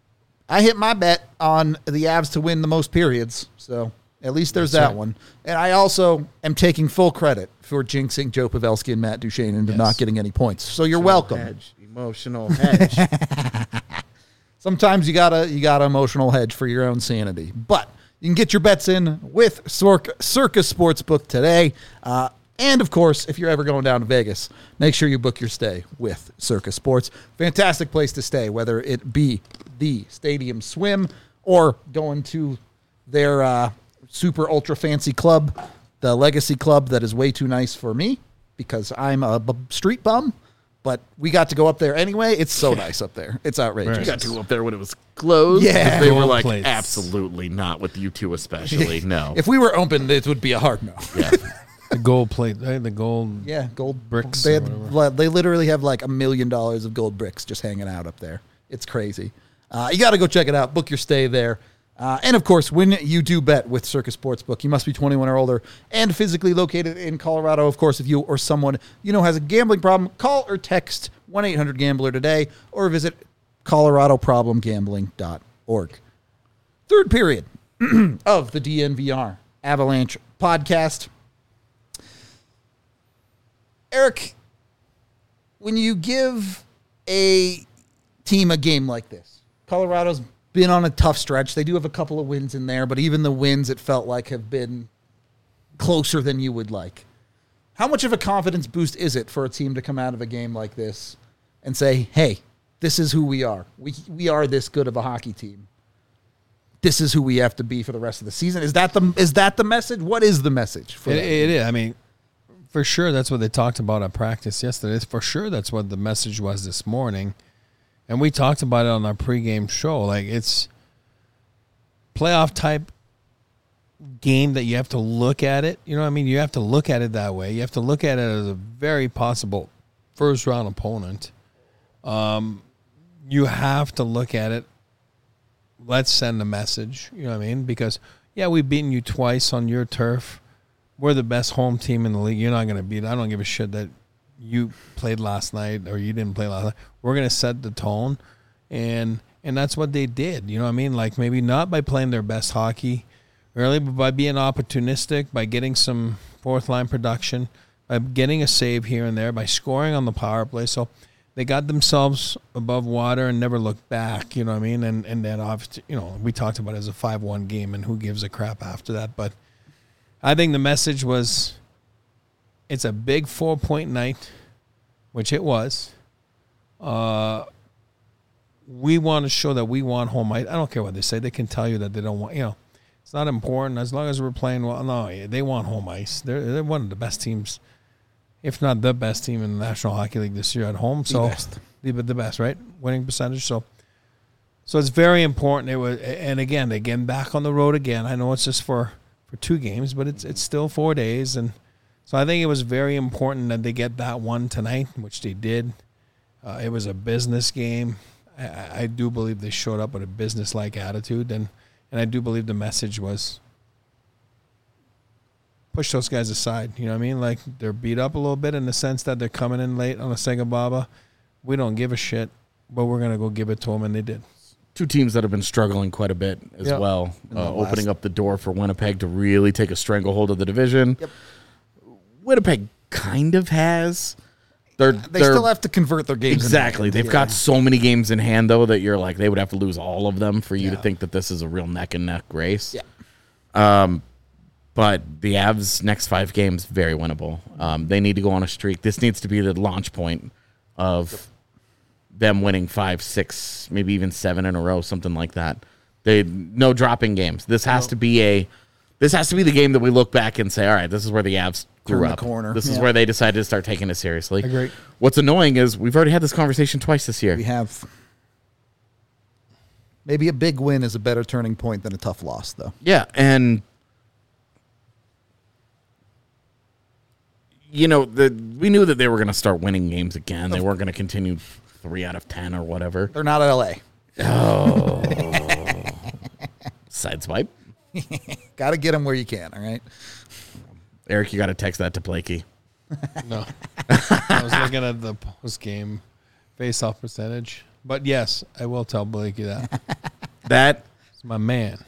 I hit my bet on the Avs to win the most periods, so at least there's That's that right. one. And I also am taking full credit for jinxing Joe Pavelski and Matt Duchene into Yes. not getting any points. So you're welcome. Hedge. Emotional hedge. Sometimes you gotta you gotta emotional hedge for your own sanity. But you can get your bets in with Circa, Circa Sportsbook today. Uh, and of course, if you're ever going down to Vegas, make sure you book your stay with Circa Sports. Fantastic place to stay, whether it be the Stadium Swim or going to their uh, super ultra fancy club, the Legacy Club, that is way too nice for me because I'm a b- street bum. But we got to go up there anyway. It's so nice up there. It's outrageous. You got to go up there when it was closed. Yeah. They were Gold like, plates. absolutely not with you two especially. No. If we were open, it would be a hard no. yeah. The gold plate, right? The gold. Yeah, gold Bricks They, or had, whatever. they literally have like a million dollars of gold bricks just hanging out up there. It's crazy. Uh, you got to go check it out. Book your stay there. Uh, and of course, when you do bet with Circa Sportsbook, you must be twenty-one or older and physically located in Colorado. Of course, if you or someone you know has a gambling problem, call or text one eight hundred gambler today or visit colorado problem gambling dot org. Third period of the D N V R Avalanche podcast. Eric, when you give a team a game like this, Colorado's been on a tough stretch. They do have a couple of wins in there, but even the wins, it felt like, have been closer than you would like. How much of a confidence boost is it for a team to come out of a game like this and say, hey, this is who we are. We we are this good of a hockey team. This is who we have to be for the rest of the season. Is that the is that the message? What is the message for It, that? it is. I mean, for sure, that's what they talked about at practice yesterday. For sure, that's what the message was this morning. And we talked about it on our pregame show. Like, it's playoff type game that you have to look at it. You know what I mean? You have to look at it that way. You have to look at it as a very possible first round opponent. Um, you have to look at it. Let's send a message. You know what I mean? Because, yeah, we've beaten you twice on your turf. We're the best home team in the league. You're not going to beat it. I don't give a shit that you played last night or you didn't play last night. We're going to set the tone, and and that's what they did. You know what I mean? Like, maybe not by playing their best hockey early, but by being opportunistic, by getting some fourth-line production, by getting a save here and there, by scoring on the power play. So they got themselves above water and never looked back, you know what I mean? And and then, obviously, you know, we talked about it as a five one game, and who gives a crap after that. But I think the message was, it's a big four-point night, which it was. Uh, we want to show that we want home ice. I don't care what they say. They can tell you that they don't want, you know, it's not important. As long as we're playing well, no, they want home ice. They're, they're one of the best teams if not the best team in the National Hockey League this year at home. So best. The, the best, right? Winning percentage. So, so it's very important. It was, and again, again, back on the road again. I know it's just for, for two games, but it's it's still four days, and so I think it was very important that they get that one tonight, which they did. Uh, it was a business game. I, I do believe they showed up with a business-like attitude, and and I do believe the message was push those guys aside. You know what I mean? Like, they're beat up a little bit in the sense that they're coming in late on a Sega Baba. We don't give a shit, but we're going to go give it to them, and they did. Two teams that have been struggling quite a bit as Yep. well, In uh, the last- opening up the door for Winnipeg to really take a stranglehold of the division. Yep. Winnipeg kind of has. They're, They they're, still have to convert their games. Exactly. in the end. They've Yeah. got so many games in hand, though, that you're like, they would have to lose all of them for you to Yeah. think that this is a real neck and neck race. Yeah. Um, but the Avs' next five games, very winnable. Um, they need to go on a streak. This needs to be the launch point of them winning five, six, maybe even seven in a row, something like that. They no dropping games. This has to be a this has to be the game that we look back and say, all right, this is where the Avs grew Turn the up. corner. This is Yeah. where they decided to start taking it seriously. Agree. What's annoying is we've already had this conversation twice this year. We have. Maybe a big win is a better turning point than a tough loss, though. Yeah, and you know, the we knew that they were going to start winning games again. They weren't going to continue three out of ten or whatever. They're not L A. Sideswipe. Got to get them where you can, all right? Eric, you got to text that to Blakey. No. I was looking at the post-game face-off percentage. But, yes, I will tell Blakey that. That, It's my man.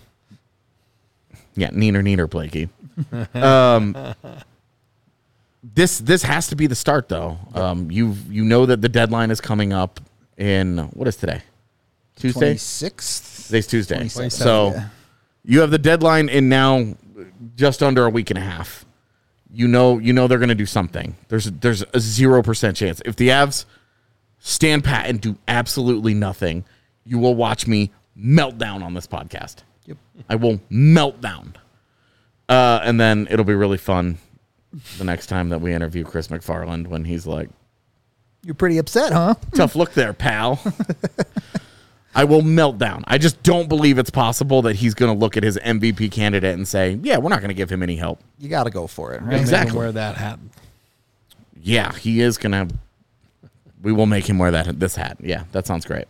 yeah, neener, neener, Blakey. um, this this has to be the start, though. Um, you you know that the deadline is coming up in, what is today? Tuesday? twenty-sixth? Today's Tuesday. twenty-seventh, So yeah. you have the deadline in now just under a week and a half. You know, you know they're going to do something. There's there's a zero percent chance if the Avs stand pat and do absolutely nothing, you will watch me melt down on this podcast. Yep. I will melt down, uh, and then it'll be really fun the next time that we interview Chris McFarland when he's like, You're pretty upset, huh? "Tough look there, pal." I will melt down. I just don't believe it's possible that he's going to look at his M V P candidate and say, yeah, we're not going to give him any help. You got to go for it, right? Make him Exactly. wear that hat. Yeah, he is going to. We will make him wear that this hat. Yeah, that sounds great.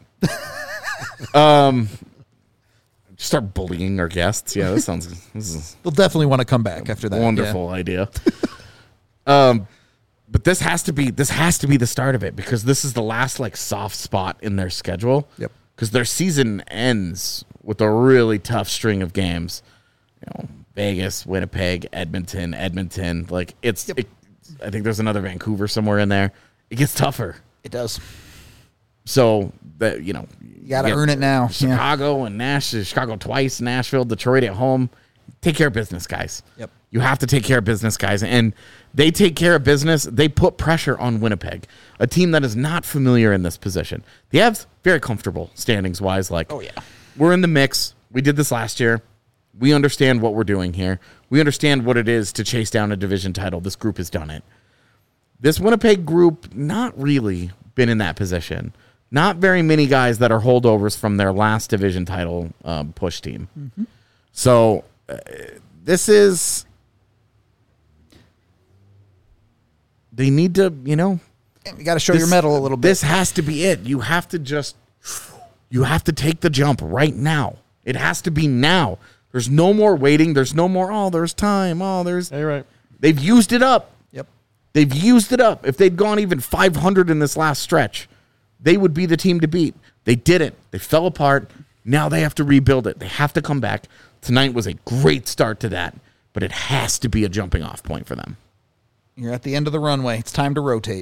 um, start bullying our guests. Yeah, this sounds this is They'll definitely want to come back after a that. wonderful idea. um, but this has to be this has to be the start of it because this is the last like soft spot in their schedule. Yep. Because their season ends with a really tough string of games. You know, Vegas, Winnipeg, Edmonton, Edmonton. Like it's, Yep. it, I think there's another Vancouver somewhere in there. It gets tougher. It does. So that you know, You got to earn it now. Yeah. Chicago and Nashville, Chicago twice, Nashville, Detroit at home. Take care of business, guys. Yep. You have to take care of business, guys. And they take care of business. They put pressure on Winnipeg, a team that is not familiar in this position. The Avs, very comfortable standings-wise. Like, Oh, yeah. we're in the mix. We did this last year. We understand what we're doing here. We understand what it is to chase down a division title. This group has done it. This Winnipeg group, not really been in that position. Not very many guys that are holdovers from their last division title um, push team. Mm-hmm. So uh, this is... They need to, you know... You got to show this- your medal a little bit. This has to be it. You have to just... You have to take the jump right now. It has to be now. There's no more waiting. There's no more, oh, there's time. Oh, there's... Hey, right. They've used it up. Yep. They've used it up. If they'd gone even five hundred in this last stretch, they would be the team to beat. They didn't. They fell apart. Now they have to rebuild it. They have to come back. Tonight was a great start to that, but it has to be a jumping off point for them. You're at the end of the runway. It's time to rotate.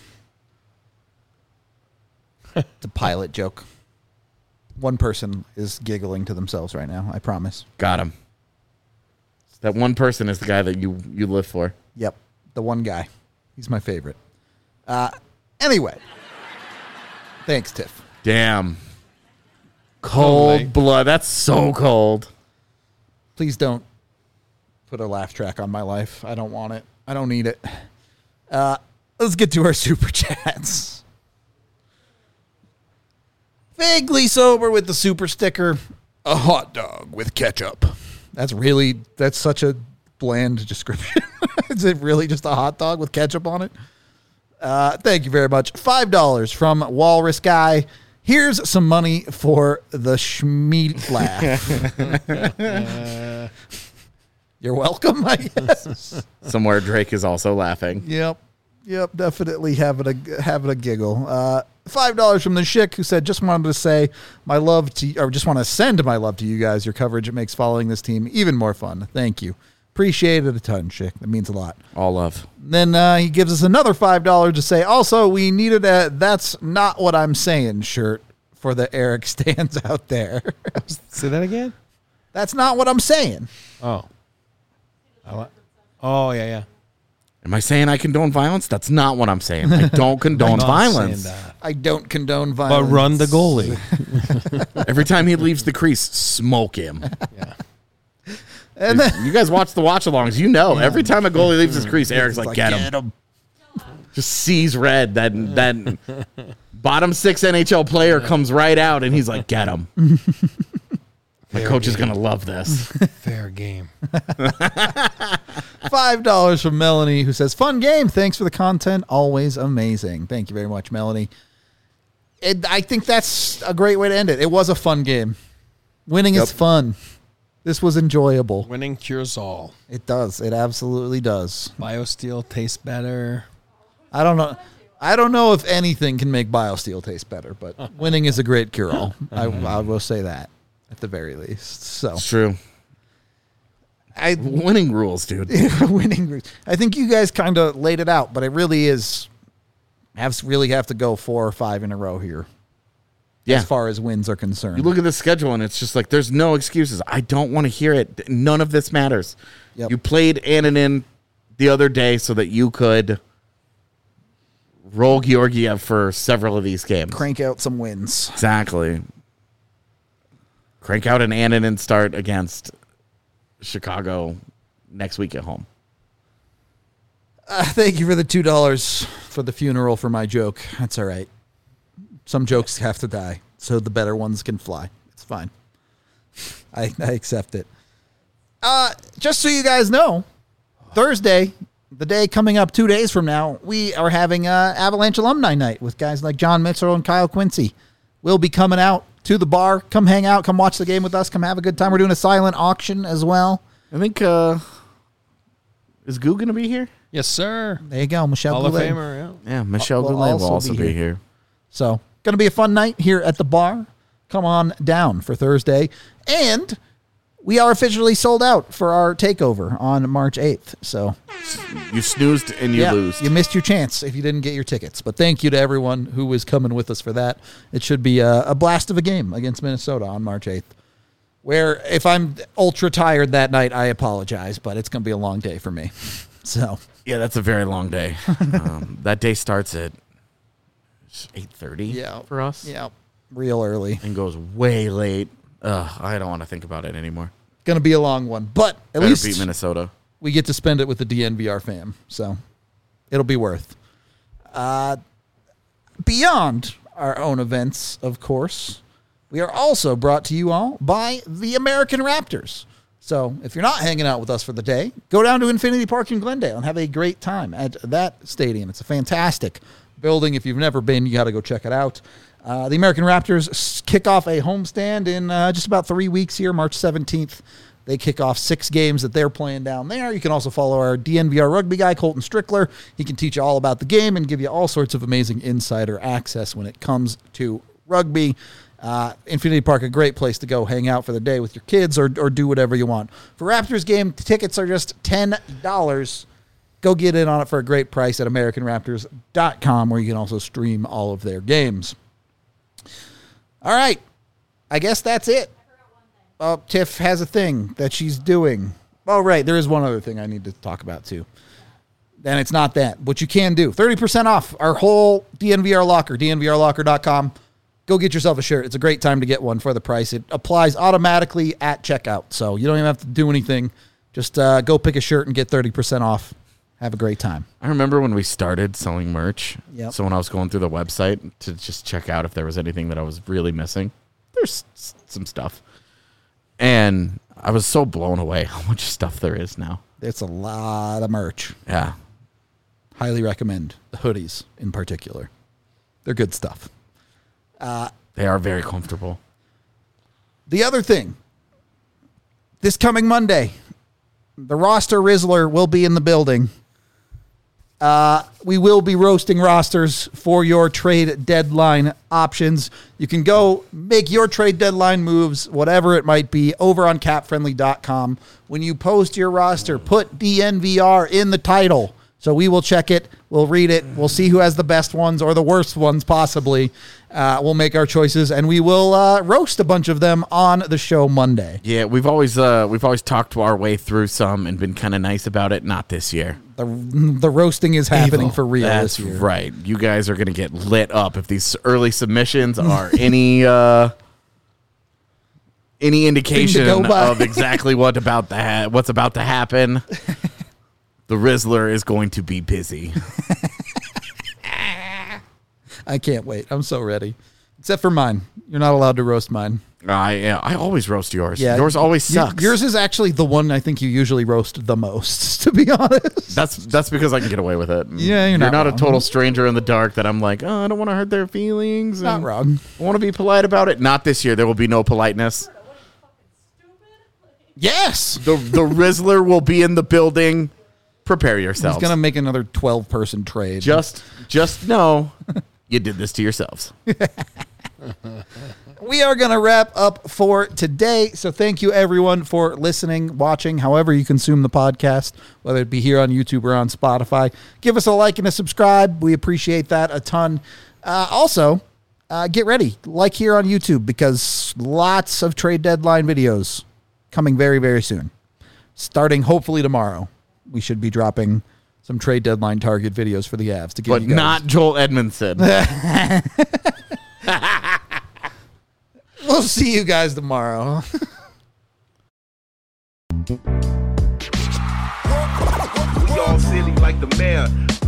It's a pilot joke. One person is giggling to themselves right now, I promise. Got him. That one person is the guy that you, you live for. Yep, the one guy. He's my favorite. Uh, anyway. Thanks, Tiff. Damn. Cold Holy. blood. That's so cold. Please don't put a laugh track on my life. I don't want it. I don't need it. Uh, let's get to our super chats. Vaguely sober with the super sticker. A hot dog with ketchup. That's really, that's such a bland description. Is it really just a hot dog with ketchup on it? Uh, thank you very much. five dollars from Walrus Guy. Here's some money for the Schmeat laugh. uh, You're welcome, I guess. Somewhere Drake is also laughing. Yep. Yep, definitely having a having a giggle. Uh, Five dollars from the Schick, who said, "Just wanted to say my love to, or just want to send my love to you guys. Your coverage, it makes following this team even more fun. Thank you, appreciate it a ton, Schick. That means a lot." All love. Then uh, he gives us another five dollars to say, "Also, we needed a that's not what I'm saying shirt for the Eric stands out there." Say that again. That's not what I'm saying. Oh. I li- oh yeah, yeah. Am I saying I condone violence? That's not what I'm saying. I don't condone I'm not violence. saying that. I don't condone violence. But run the goalie. Every time he leaves the crease, smoke him. Yeah. And then, You guys watch the watch-alongs. You know, every time a goalie leaves his crease, Eric's like, like, get him. Just sees red. That, that bottom six N H L player comes right out, and he's like, get him. My Fair coach is game. going to love this. Fair game. five dollars from Melanie, who says, "Fun game. Thanks for the content. Always amazing." Thank you very much, Melanie. It, I think that's a great way to end it. It was a fun game. Winning Yep. is fun. This was enjoyable. Winning cures all. It does. It absolutely does. BioSteel tastes better. I don't know. I don't know if anything can make BioSteel taste better, but winning is a great cure-all. I, I will say that at the very least. So It's true. I Winning rules, dude. winning. I think you guys kind of laid it out, but it really is. Have really have to go four or five in a row here. Yeah. As far as wins are concerned. You look at the schedule, and it's just like, there's no excuses. I don't want to hear it. None of this matters. Yep. You played Annunen the other day so that you could roll Georgiev for several of these games. Crank out some wins. Exactly. Crank out an Annunen start against Chicago next week at home. Uh, thank you for the two dollars for the funeral for my joke. That's all right. Some jokes have to die, so the better ones can fly. It's fine. I, I accept it. Uh, just so you guys know, Thursday, the day coming up two days from now, we are having uh, Avalanche Alumni Night with guys like John Mitchell and Kyle Quincy. We'll be coming out to the bar. Come hang out. Come watch the game with us. Come have a good time. We're doing a silent auction as well. I think, uh, is Goo going to be here? Yes, sir. There you go, Michelle Hall of Goulet. Famer. Yeah. Yeah, Michelle Will Goulet will also also be be here. here. So, going to be a fun night here at the bar. Come on down for Thursday. And we are officially sold out for our takeover on March eighth. So, You snoozed and you yeah, lose. you missed your chance if you didn't get your tickets. But thank you to everyone who was coming with us for that. It should be a, a blast of a game against Minnesota on March eighth. Where, if I'm ultra tired that night, I apologize, but it's going to be a long day for me. So, Yeah, that's a very long day. um, that day starts at eight thirty Yeah. for us. yeah, real early. And goes way late. Ugh, I don't want to think about it anymore. Going to be a long one. But at Better least beat Minnesota. we get to spend it with the D N V R fam. So it'll be worth. Uh, beyond our own events, of course, we are also brought to you all by the American Raptors. So if you're not hanging out with us for the day, go down to Infinity Park in Glendale and have a great time at that stadium. It's a fantastic building. If you've never been, you got to go check it out. Uh, the American Raptors s- kick off a homestand in uh, just about three weeks here, March seventeenth. They kick off six games that they're playing down there. You can also follow our D N V R rugby guy, Colton Strickler. He can teach you all about the game and give you all sorts of amazing insider access when it comes to rugby. Uh, Infinity Park, a great place to go hang out for the day with your kids or, or do whatever you want. For Raptors game, tickets are just ten dollars. Go get in on it for a great price at American Raptors dot com, where you can also stream all of their games. All right. I guess that's it. Oh, Tiff has a thing that she's doing. Oh, right. There is one other thing I need to talk about, too. And it's not that. What you can do, thirty percent off our whole D N V R locker, D N V R locker dot com. Go get yourself a shirt. It's a great time to get one for the price. It applies automatically at checkout, so you don't even have to do anything. Just uh, go pick a shirt and get thirty percent off Have a great time. I remember when we started selling merch. Yep. So when I was going through the website to just check out if there was anything that I was really missing, there's s- some stuff. And I was so blown away how much stuff there is now. It's a lot of merch. Yeah. Highly recommend the hoodies in particular. They're good stuff. They are very comfortable. The other thing, this coming Monday, the roster Rizzler will be in the building. Uh, we will be roasting rosters for your trade deadline options. You can go make your trade deadline moves, whatever it might be, over on cap friendly dot com. When you post your roster, put D N V R in the title. So we will check it. We'll read it. We'll see who has the best ones or the worst ones possibly. Uh, we'll make our choices, and we will uh, roast a bunch of them on the show Monday. Yeah, we've always uh, we've always talked our way through some and been kind of nice about it. Not this year. The, the roasting is happening for real That's this year. right. You guys are going to get lit up if these early submissions are any uh, any indication go by. of exactly what about the ha- what's about to happen. The Rizzler is going to be busy. I can't wait. I'm so ready. Except for mine. You're not allowed to roast mine. I yeah, I always roast yours. Yeah, Yours always y- sucks. Yours is actually the one I think you usually roast the most, to be honest. That's that's because I can get away with it. Yeah, you're not not a wrong. total stranger in the dark that I'm like, oh, I don't want to hurt their feelings. Not and wrong. I want to be polite about it. Not this year. There will be no politeness. Yes. The the Rizzler will be in the building. Prepare yourselves. He's going to make another twelve-person trade. just just know you did this to yourselves. We are going to wrap up for today. So thank you, everyone, for listening, watching, however you consume the podcast, whether it be here on YouTube or on Spotify. Give us a like and a subscribe. We appreciate that a ton. Uh, also, uh, get ready. Like here on YouTube, because lots of trade deadline videos coming very, very soon. Starting hopefully tomorrow, we should be dropping some trade deadline target videos for the Avs to give But you guys. not Joel Edmondson. We'll see you guys tomorrow. We all silly like the mayor.